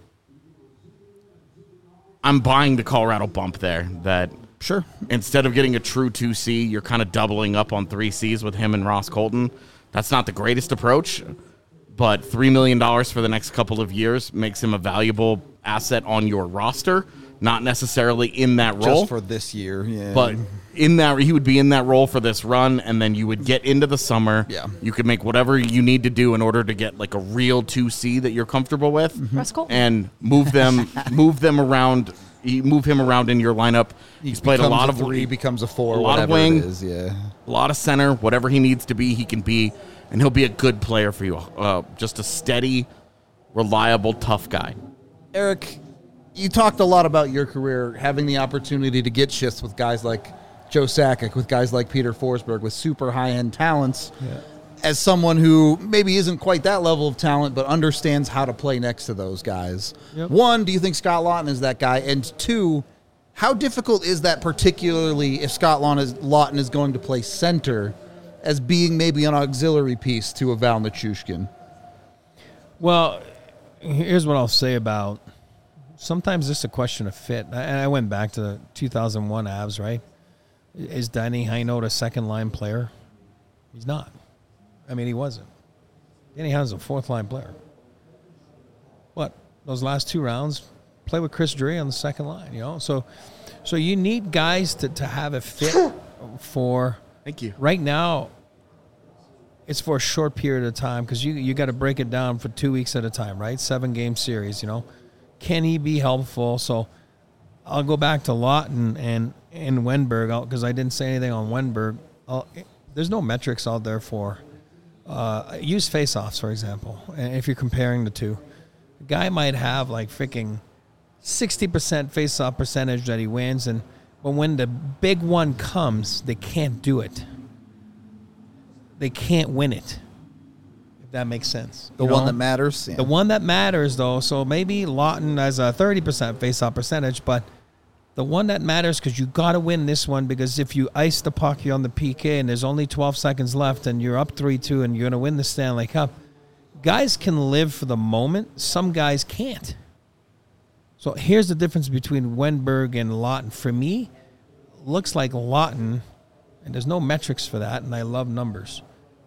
I'm buying the Colorado bump there. That Sure. instead of getting a true two C, you're kind of doubling up on three Cs with him and Ross Colton. That's not the greatest approach, but three million dollars for the next couple of years makes him a valuable asset on your roster. Not necessarily in that role. Just for this year, yeah. But in that, he would be in that role for this run, and then you would get into the summer. Yeah. You could make whatever you need to do in order to get like a real two C that you're comfortable with, Ross Colton. and move them, move them around. You move him around in your lineup. He's played a Becomes lot of three, becomes a four, a lot of whatever wing. it is, yeah. a lot of center, whatever he needs to be, he can be, and he'll be a good player for you. Uh, just a steady, reliable, tough guy. Eric, you talked a lot about your career, having the opportunity to get shifts with guys like Joe Sakic, with guys like Peter Forsberg, with super high-end talents. Yeah. As someone who maybe isn't quite that level of talent, but understands how to play next to those guys. Yep. One, do you think Scott Laughton is that guy? And two, how difficult is that, particularly if Scott Laughton is, Laughton is going to play center, as being maybe an auxiliary piece to a Val Nichushkin? Well, here's what I'll say about sometimes it's a question of fit. And I went back to the two thousand one Avs, right? Is Danny Heinold a second-line player? He's not. I mean, he wasn't. Danny Heinold's a fourth-line player. What? Those last two rounds, play with Chris Drury on the second line, you know? So so you need guys to, to have a fit for... Thank you. Right now, it's for a short period of time because you you got to break it down for two weeks at a time, right? Seven-game series, you know? Can he be helpful? So I'll go back to Lawton and, and Wenberg because I didn't say anything on Wenberg. I'll, there's no metrics out there for uh, use face-offs, for example, and if you're comparing the two. A guy might have like freaking sixty percent face-off percentage that he wins, and but when the big one comes, they can't do it. They can't win it. If that makes sense. The You one know? that matters. Yeah. The one that matters, though, so maybe Lawton has a thirty percent face-off percentage, but the one that matters because you got to win this one because if you ice the puck, you're on the P K and there's only twelve seconds left and you're up three two and you're going to win the Stanley Cup. Guys can live for the moment. Some guys can't. So here's the difference between Wenberg and Lawton. For me, looks like Lawton, and there's no metrics for that, and I love numbers.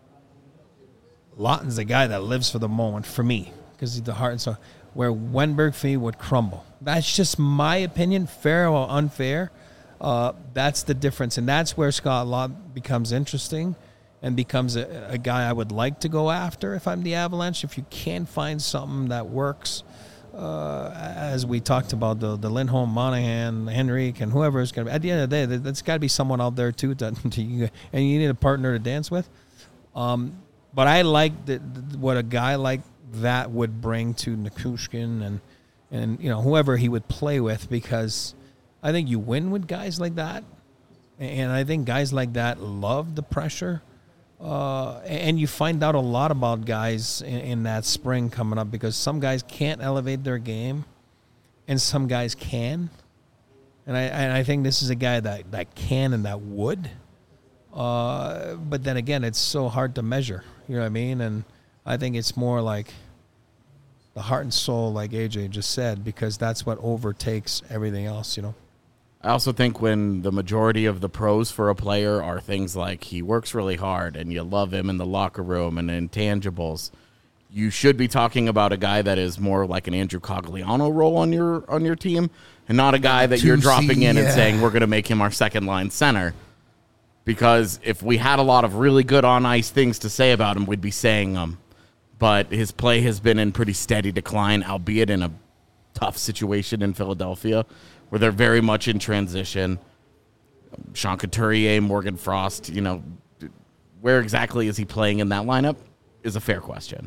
Lawton's the guy that lives for the moment for me because he's the heart and soul. Where Wenberg for me would crumble. That's just my opinion, fair or unfair. Uh, that's the difference, and that's where Scott Lawton becomes interesting and becomes a, a guy I would like to go after if I'm the Avalanche. If you can find something that works, uh, as we talked about the the Lindholm, Monahan, Henrique, and whoever is going to be. At the end of the day, there's got to be someone out there too, to, to, and you need a partner to dance with. Um, but I like the, the, what a guy like that would bring to Nichushkin and and you know whoever he would play with, because I think you win with guys like that, and I think guys like that love the pressure. Uh, and you find out a lot about guys in, in that spring coming up because some guys can't elevate their game and some guys can. And I and I think this is a guy that, that can and that would. Uh, but then again, it's so hard to measure. You know what I mean? And I think it's more like the heart and soul, like A J just said, because that's what overtakes everything else, you know? I also think when the majority of the pros for a player are things like he works really hard and you love him in the locker room and intangibles, you should be talking about a guy that is more like an Andrew Cogliano role on your on your team and not a guy that you're dropping in yeah. and saying we're going to make him our second line center. Because if we had a lot of really good on-ice things to say about him, we'd be saying them. But his play has been in pretty steady decline, albeit in a tough situation in Philadelphia, where they're very much in transition. Sean Couturier, Morgan Frost, you know, where exactly is he playing in that lineup is a fair question.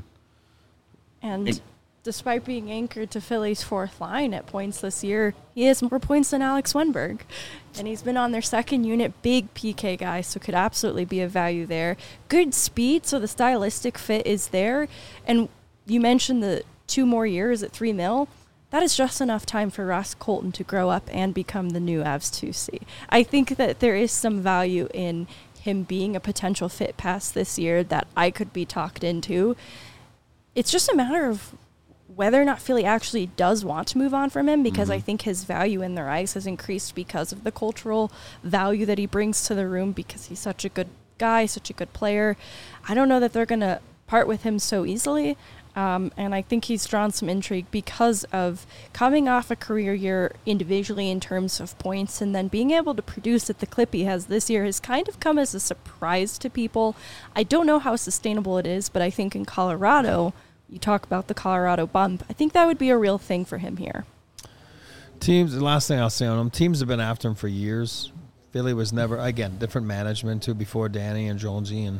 And It- despite being anchored to Philly's fourth line at points this year, he has more points than Alex Wenberg. And he's been on their second unit, big P K guy, so could absolutely be of value there. Good speed, so the stylistic fit is there. And you mentioned the two more years at three mil. That is just enough time for Ross Colton to grow up and become the new Avs two C. I think that there is some value in him being a potential fit pass this year that I could be talked into. It's just a matter of whether or not Philly actually does want to move on from him, because mm-hmm. I think his value in their eyes has increased because of the cultural value that he brings to the room, because he's such a good guy, such a good player. I don't know that they're going to part with him so easily. Um, and I think he's drawn some intrigue because of coming off a career year individually in terms of points, and then being able to produce at the clip he has this year has kind of come as a surprise to people. I don't know how sustainable it is, but I think in Colorado, you talk about the Colorado bump, I think that would be a real thing for him here. Teams, the last thing I'll say on him, teams have been after him for years. Philly was never, again, different management too before Danny and Jonesy, and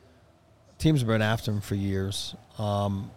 teams have been after him for years. Um,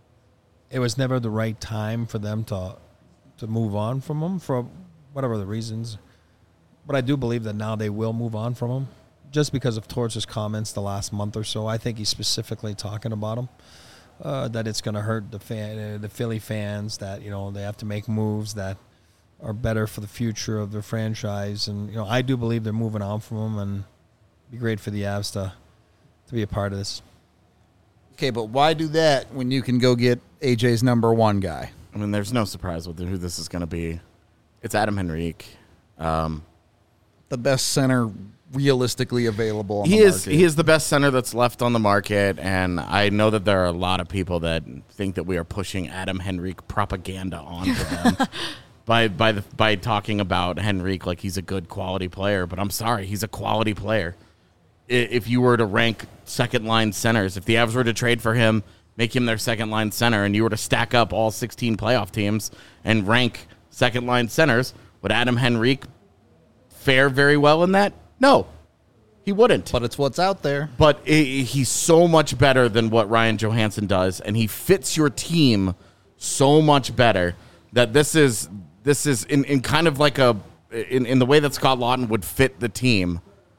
It was never the right time for them to to move on from him for whatever the reasons. But I do believe that now they will move on from him just because of Torch's comments the last month or so. I think he's specifically talking about him, uh, that it's going to hurt the fan, uh, the Philly fans, that, you know, they have to make moves that are better for the future of their franchise. And, you know, I do believe they're moving on from him, and it'd be great for the Avs to, to be a part of this. Okay, but why do that when you can go get A J's number one guy? I mean, there's no surprise with who this is going to be. It's Adam Henrique. Um, the best center realistically available on he the is market. he is the best center that's left on the market, and I know that there are a lot of people that think that we are pushing Adam Henrique propaganda onto them by by the by talking about Henrique like he's a good quality player. But I'm sorry, he's a quality player. I- If you were to rank second line centers, if the Avs were to trade for him, make him their second line center, and you were to stack up all sixteen playoff teams and rank second line centers, would Adam Henrique fare very well in that? No, he wouldn't. But it's what's out there. But i he's so much better than what Ryan Johansson does, and he fits your team so much better that this is this is in, in kind of like a in, in the way that Scott Laughton would fit the team.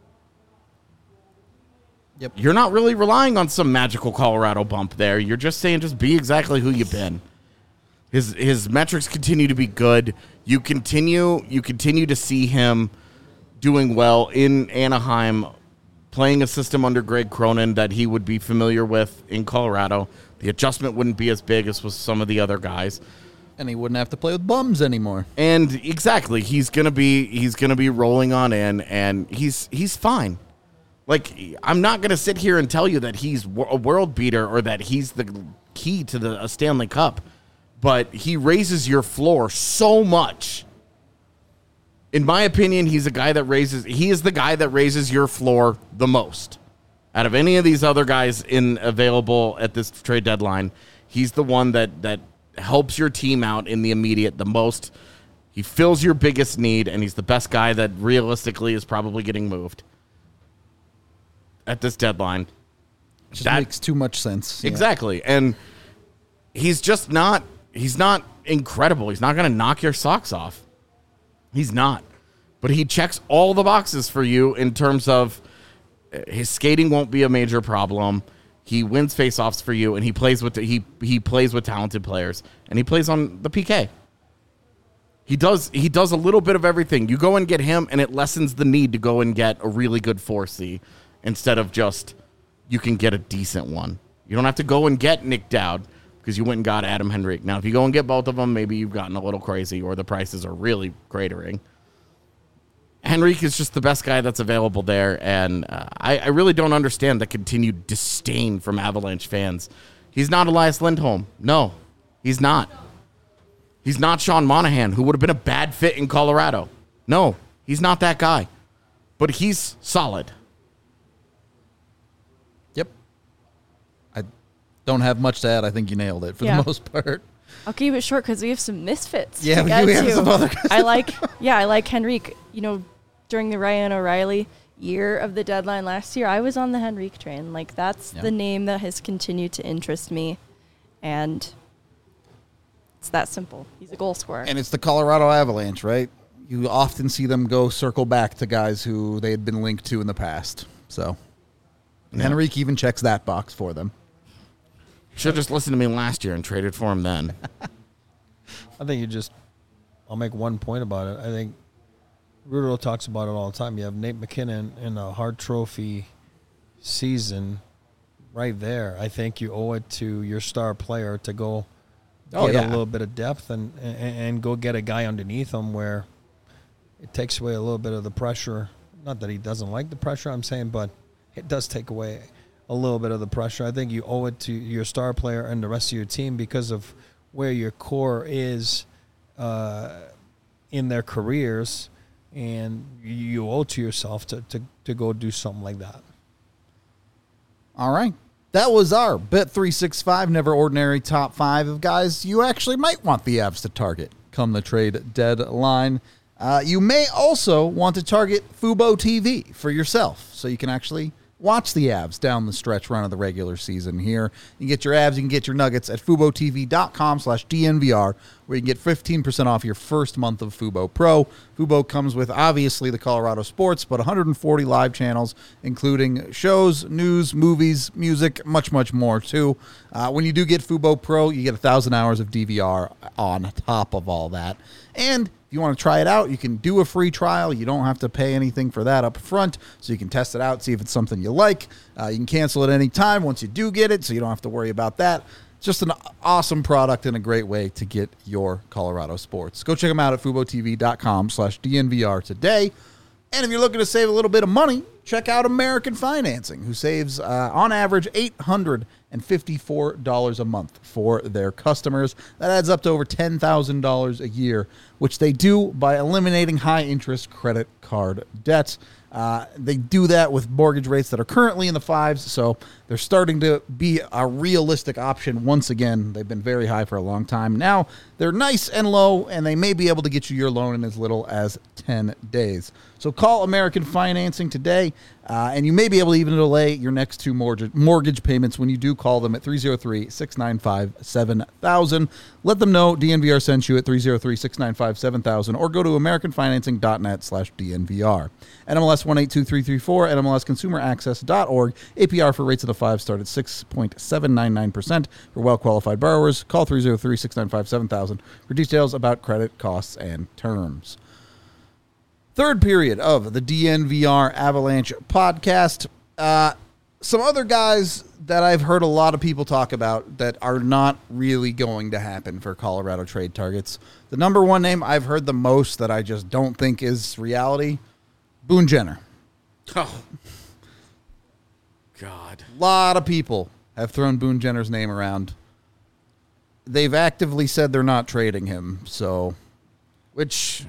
Yep. You're not really relying on some magical Colorado bump there. You're just saying just be exactly who you've been. His his metrics continue to be good. You continue you continue to see him doing well in Anaheim, playing a system under Greg Cronin that he would be familiar with in Colorado. The adjustment wouldn't be as big as with some of the other guys. And he wouldn't have to play with bums anymore. And exactly, he's gonna be he's gonna be rolling on in, and he's he's fine. Like, I'm not gonna sit here and tell you that he's a world beater or that he's the key to the a Stanley Cup, but he raises your floor so much. In my opinion, he's a guy that raises he is the guy that raises your floor the most. Out of any of these other guys in available at this trade deadline, he's the one that that helps your team out in the immediate the most. He fills your biggest need, and he's the best guy that realistically is probably getting moved at this deadline. Just That- makes too much sense. Yeah. Exactly. And he's just not he's not incredible. He's not going to knock your socks off. He's not. But he checks all the boxes for you in terms of uh, his skating won't be a major problem. He wins faceoffs for you, and he plays with the, he he plays with talented players, and he plays on the P K. He does he does a little bit of everything. You go and get him, and it lessens the need to go and get a really good four C instead of just you can get a decent one. You don't have to go and get Nick Dowd because you went and got Adam Henrique. Now, if you go and get both of them, maybe you've gotten a little crazy or the prices are really cratering. Henrique is just the best guy that's available there, and uh, I, I really don't understand the continued disdain from Avalanche fans. He's not Elias Lindholm. No, he's not. He's not Sean Monahan, who would have been a bad fit in Colorado. No, he's not that guy. But he's solid. Yep. I don't have much to add. I think you nailed it for Yeah. the most part. I'll keep it short because we have some misfits. Yeah, to we get do have to. some other guys. I like, yeah, I like Henrique. You know, during the Ryan O'Reilly year of the deadline last year, I was on the Henrique train. Like, that's Yeah. the name that has continued to interest me, and it's that simple. He's a goal scorer. And it's the Colorado Avalanche, right? You often see them go circle back to guys who they had been linked to in the past. So Yeah. Henrique even checks that box for them. Should have just listened to me last year and traded for him then. I think you just, I'll make one point about it. I think Rudo talks about it all the time. You have Nate McKinnon in a Hart Trophy season right there. I think you owe it to your star player to go Oh, get yeah. a little bit of depth and, and, and go get a guy underneath him where it takes away a little bit of the pressure. Not that he doesn't like the pressure, I'm saying, but it does take away a little bit of the pressure. I think you owe it to your star player and the rest of your team because of where your core is uh, in their careers, and you owe it to yourself to, to, to go do something like that. All right. That was our Bet three sixty-five Never Ordinary top five of guys you actually might want the Avs to target come the trade deadline. Uh, you may also want to target Fubo T V for yourself so you can actually watch the Avs down the stretch run of the regular season here. You can get your Avs, you can get your Nuggets at FuboTV.com slash DNVR, where you can get fifteen percent off your first month of Fubo Pro. Fubo comes with, obviously, the Colorado sports, but one hundred forty live channels, including shows, news, movies, music, much, much more, too. Uh, when you do get Fubo Pro, you get one thousand hours of D V R on top of all that. And if you want to try it out, you can do a free trial. You don't have to pay anything for that up front, so you can test it out, see if it's something you like. Uh, you can cancel at any time once you do get it, so you don't have to worry about that. just an awesome product and a great way to get your Colorado sports. Go check them out at FuboTV.com slash DNVR today. And if you're looking to save a little bit of money, check out American Financing, who saves, uh, on average, eight hundred fifty-four dollars a month for their customers. That adds up to over ten thousand dollars a year, which they do by eliminating high-interest credit card debts. Uh, they do that with mortgage rates that are currently in the fives, so they're starting to be a realistic option once again. They've been very high for a long time. Now they're nice and low, and they may be able to get you your loan in as little as ten days. So call American Financing today, uh, and you may be able to even delay your next two mortgage, mortgage payments when you do call them at three oh three, six nine five, seven thousand. Let them know D N V R sent you at three oh three, six nine five, seven thousand, or go to americanfinancing.net slash DNVR. N M L S one eight two three three four, N M L S consumer access dot org. A P R for rates of the five start at six point seven nine nine percent for well-qualified borrowers. Call three oh three, six nine five, seven thousand for details about credit, costs, and terms. Third period of the D N V R Avalanche podcast. Uh, some other guys that I've heard a lot of people talk about that are not really going to happen for Colorado trade targets. The number one name I've heard the most that I just don't think is reality, Boone Jenner. Oh, God. A lot of people have thrown Boone Jenner's name around. They've actively said they're not trading him, so, which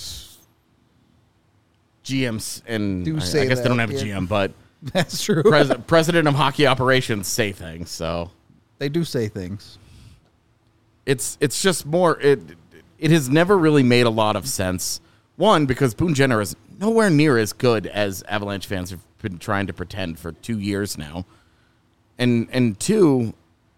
G Ms and Do I, say I guess that, they don't have a yeah. G M, but that's true. pres- president of hockey operations say things. So They do say things. it's it's just more it it has never really made a lot of sense. One, because Boone Jenner is nowhere near as good as Avalanche fans have been trying to pretend for two years now, and and two,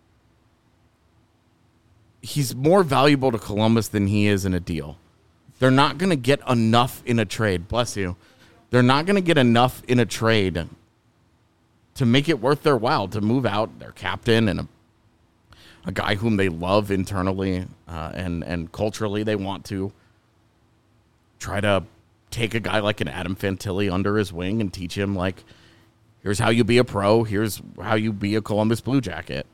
he's more valuable to Columbus than he is in a deal. They're not going to get enough in a trade. Bless you. They're not going to get enough in a trade to make it worth their while to move out their captain and a, a guy whom they love internally uh, and, and culturally. They want to try to take a guy like an Adam Fantilli under his wing and teach him, like, here's how you be a pro. Here's how you be a Columbus Blue Jacket.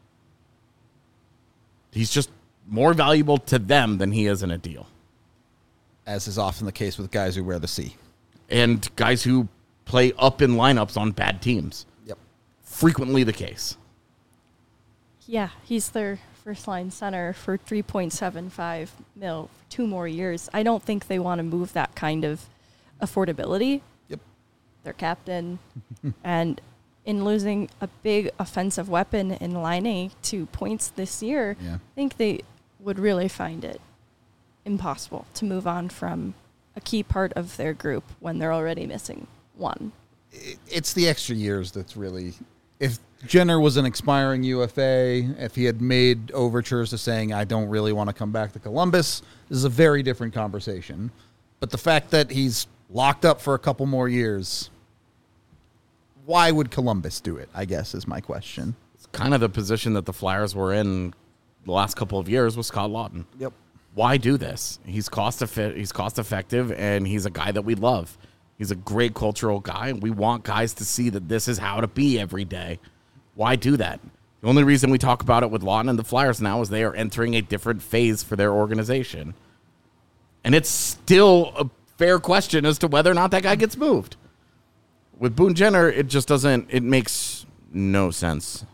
He's just more valuable to them than he is in a deal. As is often the case with guys who wear the C. And guys who play up in lineups on bad teams. Yep. Frequently the case. Yeah, he's their first line center for three point seven five mil for two more years. I don't think they want to move that kind of affordability. Yep. Their captain. And in losing a big offensive weapon in Line A to points this year, Yeah. I think they would really find it impossible to move on from a key part of their group when they're already missing one. It's the extra years that's really... If Jenner was an expiring U F A, if he had made overtures to saying, I don't really want to come back to Columbus, this is a very different conversation. But the fact that he's locked up for a couple more years, why would Columbus do it, I guess, is my question. It's kind of the position that the Flyers were in the last couple of years with Scott Lawton. Yep. Why do this? He's cost effi- he's cost effective, and he's a guy that we love. He's a great cultural guy. We want guys to see that this is how to be every day. Why do that? The only reason we talk about it with Lawton and the Flyers now is they are entering a different phase for their organization. And it's still a fair question as to whether or not that guy gets moved. With Boone Jenner, it just doesn't, it makes no sense.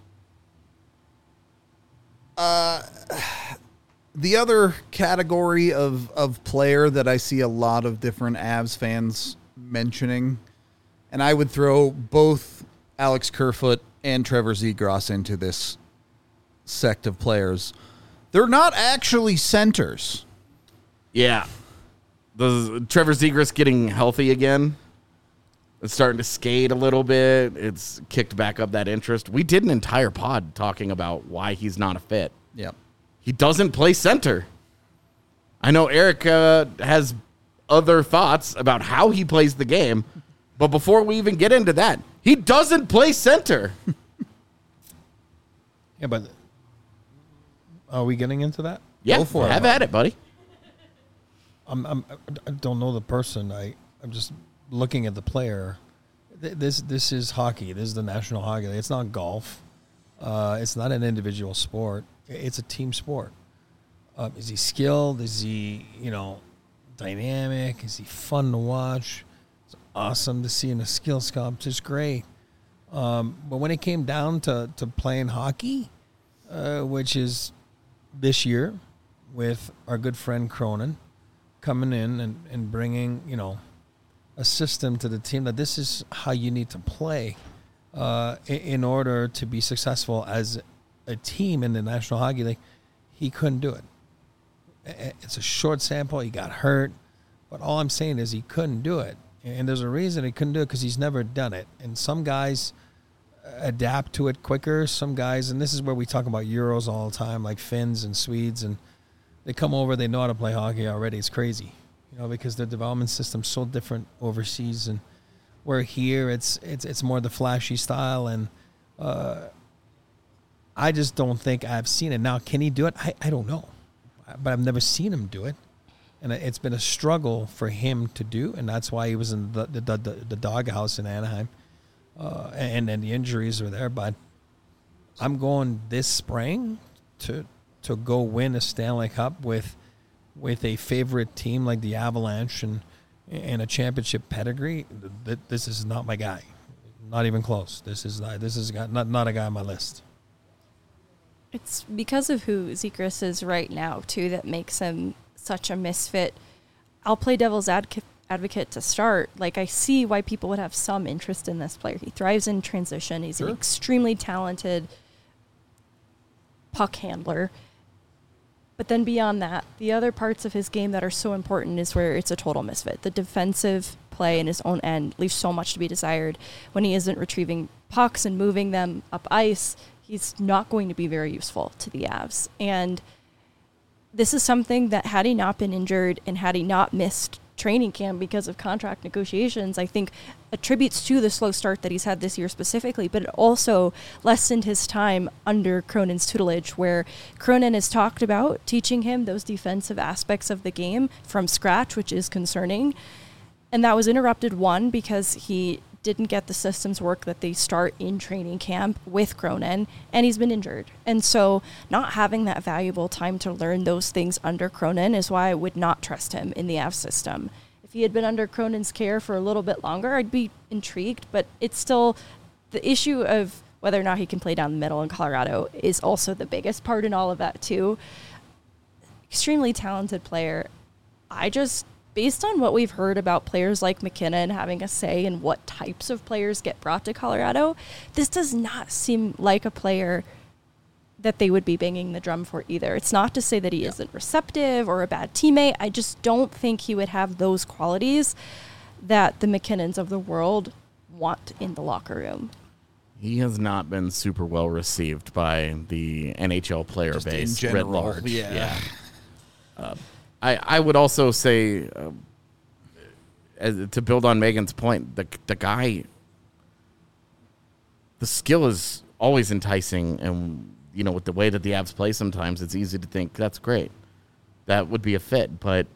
Uh, the other category of, of player that I see a lot of different Avs fans mentioning, and I would throw both Alex Kerfoot and Trevor Zegras into this sect of players. They're not actually centers. Yeah. The Trevor Zegras getting healthy again. It's starting to skate a little bit. It's kicked back up that interest. We did an entire pod talking about why he's not a fit. Yep. He doesn't play center. I know Eric uh, has other thoughts about how he plays the game, but before we even get into that, he doesn't play center. Yeah, but are we getting into that? Yeah, Go for it, have buddy. at it, buddy. I'm, I'm, I don't know the person. I, I'm just looking at the player. Th- This this is hockey. This is the National Hockey League. It's not golf. Uh, it's not an individual sport. It's a team sport. Uh, is he skilled? Is he, you know, dynamic? Is he fun to watch? It's awesome to see in a skills competition. Great. Um, but when it came down to, to playing hockey, uh, which is this year with our good friend Cronin coming in and, and bringing, you know, a system to the team that this is how you need to play uh, in, in order to be successful as a team in the National Hockey League, he couldn't do it. It's a short sample. He got hurt. But all I'm saying is he couldn't do it. And there's a reason he couldn't do it because he's never done it. And some guys adapt to it quicker. Some guys, and this is where we talk about Euros all the time, like Finns and Swedes, and they come over, they know how to play hockey already. It's crazy, you know, because their development system's so different overseas. And where here, it's it's it's more the flashy style. And uh, I just don't think I've seen it. Now, can he do it? I, I don't know. But I've never seen him do it. And it's been a struggle for him to do, and that's why he was in the the, the, the doghouse in Anaheim. Uh, and then the injuries were there. But I'm going this spring to to go win a Stanley Cup with with a favorite team like the Avalanche and, and a championship pedigree. This is not my guy. Not even close. This is not, this is not, not a guy on my list. It's because of who Zegras is right now, too, that makes him such a misfit. I'll play devil's advocate advocate to start. Like, I see why people would have some interest in this player. He thrives in transition. He's sure. an extremely talented puck handler. But then beyond that, the other parts of his game that are so important is where it's a total misfit. The defensive play in his own end leaves so much to be desired. When he isn't retrieving pucks and moving them up ice, he's not going to be very useful to the Avs. And this is something that had he not been injured and had he not missed training camp because of contract negotiations, I think attributes to the slow start that he's had this year specifically, but it also lessened his time under Cronin's tutelage, where Cronin has talked about teaching him those defensive aspects of the game from scratch, which is concerning. And that was interrupted, one, because he didn't get the systems work that they start in training camp with Cronin, and he's been injured. And so not having that valuable time to learn those things under Cronin is why I would not trust him in the Avs system. If he had been under Cronin's care for a little bit longer, I'd be intrigued, but it's still the issue of whether or not he can play down the middle in Colorado is also the biggest part in all of that too. Extremely talented player. I just Based on what we've heard about players like McKinnon having a say in what types of players get brought to Colorado, this does not seem like a player that they would be banging the drum for either. It's not to say that he yeah. isn't receptive or a bad teammate. I just don't think he would have those qualities that the McKinnons of the world want in the locker room. He has not been super well received by the N H L player just base in general, writ large. Yeah. yeah. Uh, I, I would also say, uh, as, to build on Megan's point, the the guy, the skill is always enticing, and you know, with the way that the Avs play, sometimes it's easy to think that's great, that would be a fit. But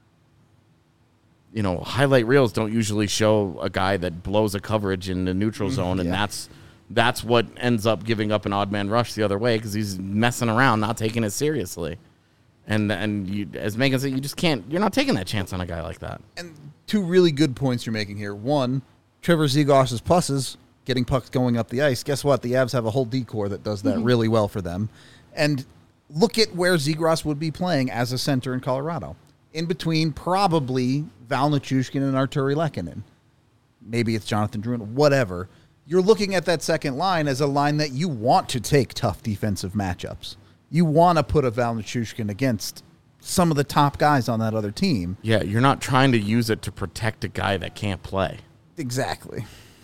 you know, highlight reels don't usually show a guy that blows a coverage in the neutral zone, mm, and yeah. that's that's what ends up giving up an odd man rush the other way because he's messing around, not taking it seriously. And and you, as Megan said, you just can't. You're not taking that chance on a guy like that. And two really good points you're making here. One, Trevor Zegras' pluses, getting pucks going up the ice. Guess what? The Avs have a whole D-core that does that mm-hmm. really well for them. And look at where Zegras would be playing as a center in Colorado. In between probably Val Nichushkin and Arturi Lehkonen. Maybe it's Jonathan Drouin, whatever. You're looking at that second line as a line that you want to take tough defensive matchups. You want to put a Val Nichushkin against some of the top guys on that other team. Yeah, you're not trying to use it to protect a guy that can't play. Exactly.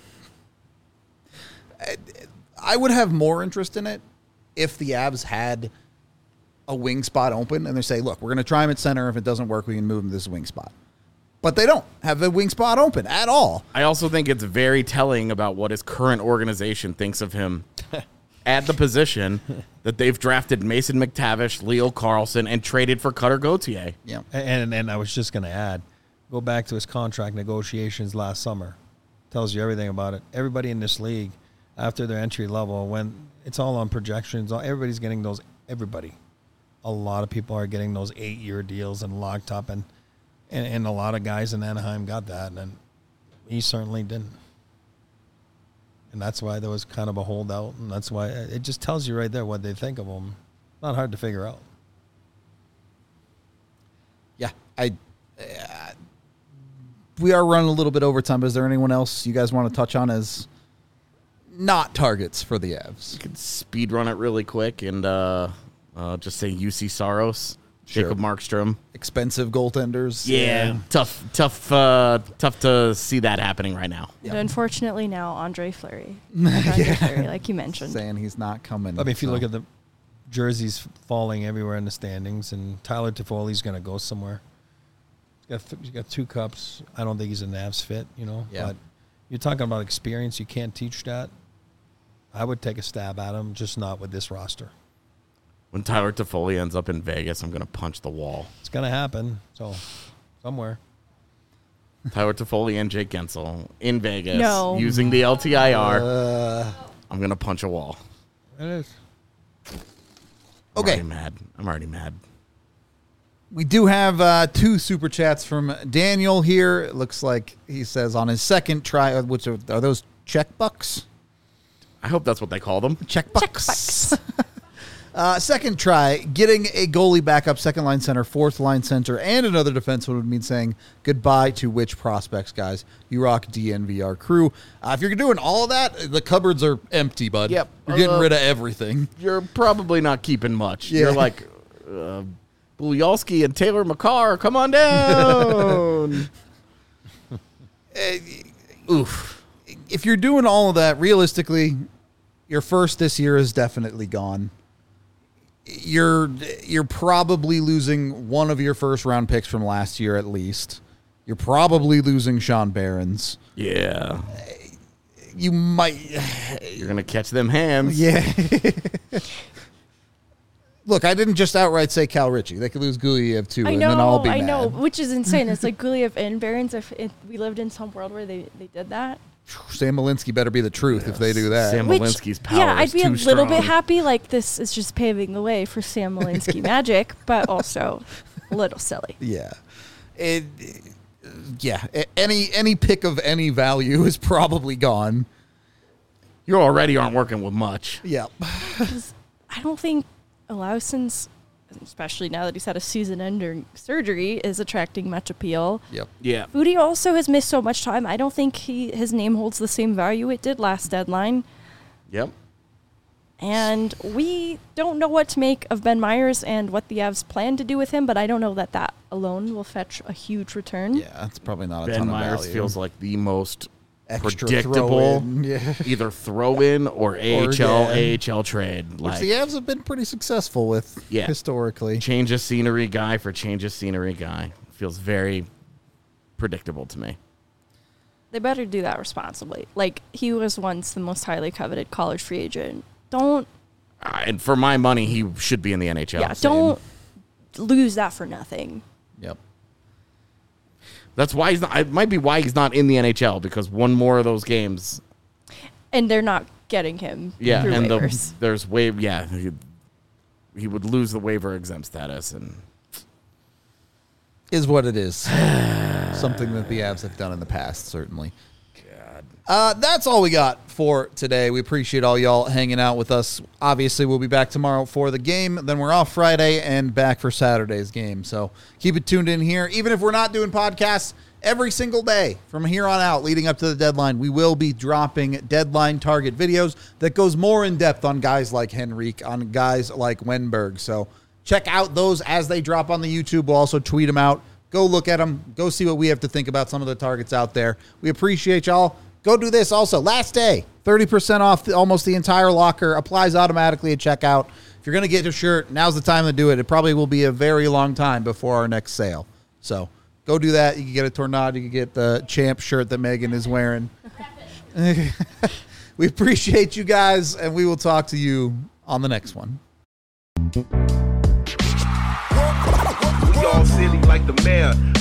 I would have more interest in it if the Avs had a wing spot open and they say, look, we're going to try him at center. If it doesn't work, we can move him to this wing spot. But they don't have a wing spot open at all. I also think it's very telling about what his current organization thinks of him at the position that they've drafted Mason McTavish, Leo Carlson, and traded for Cutter Gauthier. Yeah, and and I was just going to add, go back to his contract negotiations last summer. Tells you everything about it. Everybody in this league, after their entry level, when it's all on projections. Everybody's getting those. Everybody, a lot of people are getting those eight-year deals and locked up, and, and and a lot of guys in Anaheim got that, and he certainly didn't. And that's why there was kind of a holdout, and that's why it just tells you right there what they think of him. Not hard to figure out. Yeah, I. Uh, we are running a little bit over time, but is there anyone else you guys want to touch on as not targets for the Avs? You could speed run it really quick and uh, uh, just say U C Saros, Sure. Jacob Markstrom. Expensive goaltenders. Yeah, tough, tough, uh, tough to see that happening right now. And unfortunately now Andre Fleury. Andre Yeah. Fleury, like you mentioned. Saying he's not coming. I mean, if you so. look at the jerseys falling everywhere in the standings, and Tyler Toffoli's going to go somewhere. He's got, he's got two cups. I don't think he's a Navs fit, you know. Yeah. But you're talking about experience. You can't teach that. I would take a stab at him, just not with this roster. When Tyler Toffoli ends up in Vegas, I'm going to punch the wall. It's going to happen. So, somewhere. Tyler Toffoli and Jake Gensel in Vegas No. using the L T I R. Uh, I'm going to punch a wall. It is. I'm Okay. already mad. I'm already mad. we do have uh, two super chats from Daniel here. It looks like he says on his second try, which are, are those check bucks? I hope that's what they call them. Check bucks. uh, second try, getting a goalie backup, second line center, fourth line center, and another defenseman would mean saying goodbye to which prospects, guys? You rock D N V R crew. Uh, if you're doing all of that, the cupboards are empty, bud. Yep. You're getting Uh, rid of everything. You're probably not keeping much. Yeah. You're like uh, Bulyalski and Taylor McCarr. Come on down. Oof. If you're doing all of that, realistically, your first this year is definitely gone. You're you're probably losing one of your first round picks from last year at least. You're probably losing Sean Barons. Yeah. You might, You're going to catch them hands. yeah. Look, I didn't just outright say Cal Ritchie. They could lose Guliev too, I and know, then I'll be I mad. know, which is insane. It's like Guliev and Barons. If, if we lived in some world where they, they did that, Sam Malinsky better be the truth if they do that. Sam which Malinsky's power yeah, I'd is be a too little bit strong. happy. Like this is just paving the way for Sam Malinsky magic, but also a little silly. Yeah. It, yeah. A- Any any pick of any value is probably gone. You already aren't working with much. Yeah. Because I don't think Olauson's, especially now that he's had a season-ending surgery, is attracting much appeal. Yep. Yeah. Foodie also has missed so much time. I don't think he his name holds the same value it did last deadline. Yep. And we don't know what to make of Ben Myers and what the Avs plan to do with him, but I don't know that that alone will fetch a huge return. Yeah, that's probably not a Ben ton Myers of value. feels like the most Extra predictable throw-in, yeah. either throw in or A H L, yeah. A H L trade. Which Like the Avs have been pretty successful with Yeah. historically. change of scenery guy for change of scenery guy. Feels very predictable to me. They better do that responsibly. Like, he was once the most highly coveted college free agent. Don't, Uh, and for my money, he should be in the N H L. yeah, don't lose that for nothing. Yep. That's why he's not. It might be why he's not in the N H L because one more of those games. And they're not getting him Yeah, through and the, waivers. there's waive. Yeah, he, he would lose the waiver exempt status, and Is what it is. Something that the Avs have done in the past, certainly. Uh, that's all we got for today. We appreciate all y'all hanging out with us. Obviously, we'll be back tomorrow for the game. Then we're off Friday and back for Saturday's game. So keep it tuned in here. Even if we're not doing podcasts every single day from here on out leading up to the deadline, we will be dropping deadline target videos that goes more in depth on guys like Henrique, on guys like Wenberg. So check out those as they drop on the YouTube. We'll also tweet them out. Go look at them. Go see what we have to think about some of the targets out there. We appreciate y'all. Go do this also. Last day, thirty percent off the, almost the entire locker. Applies automatically at checkout. If you're going to get a shirt, now's the time to do it. It probably will be a very long time before our next sale. So go do that. You can get a Tornado. You can get the champ shirt that Megan is wearing. We appreciate you guys, and we will talk to you on the next one. We all silly like the mayor.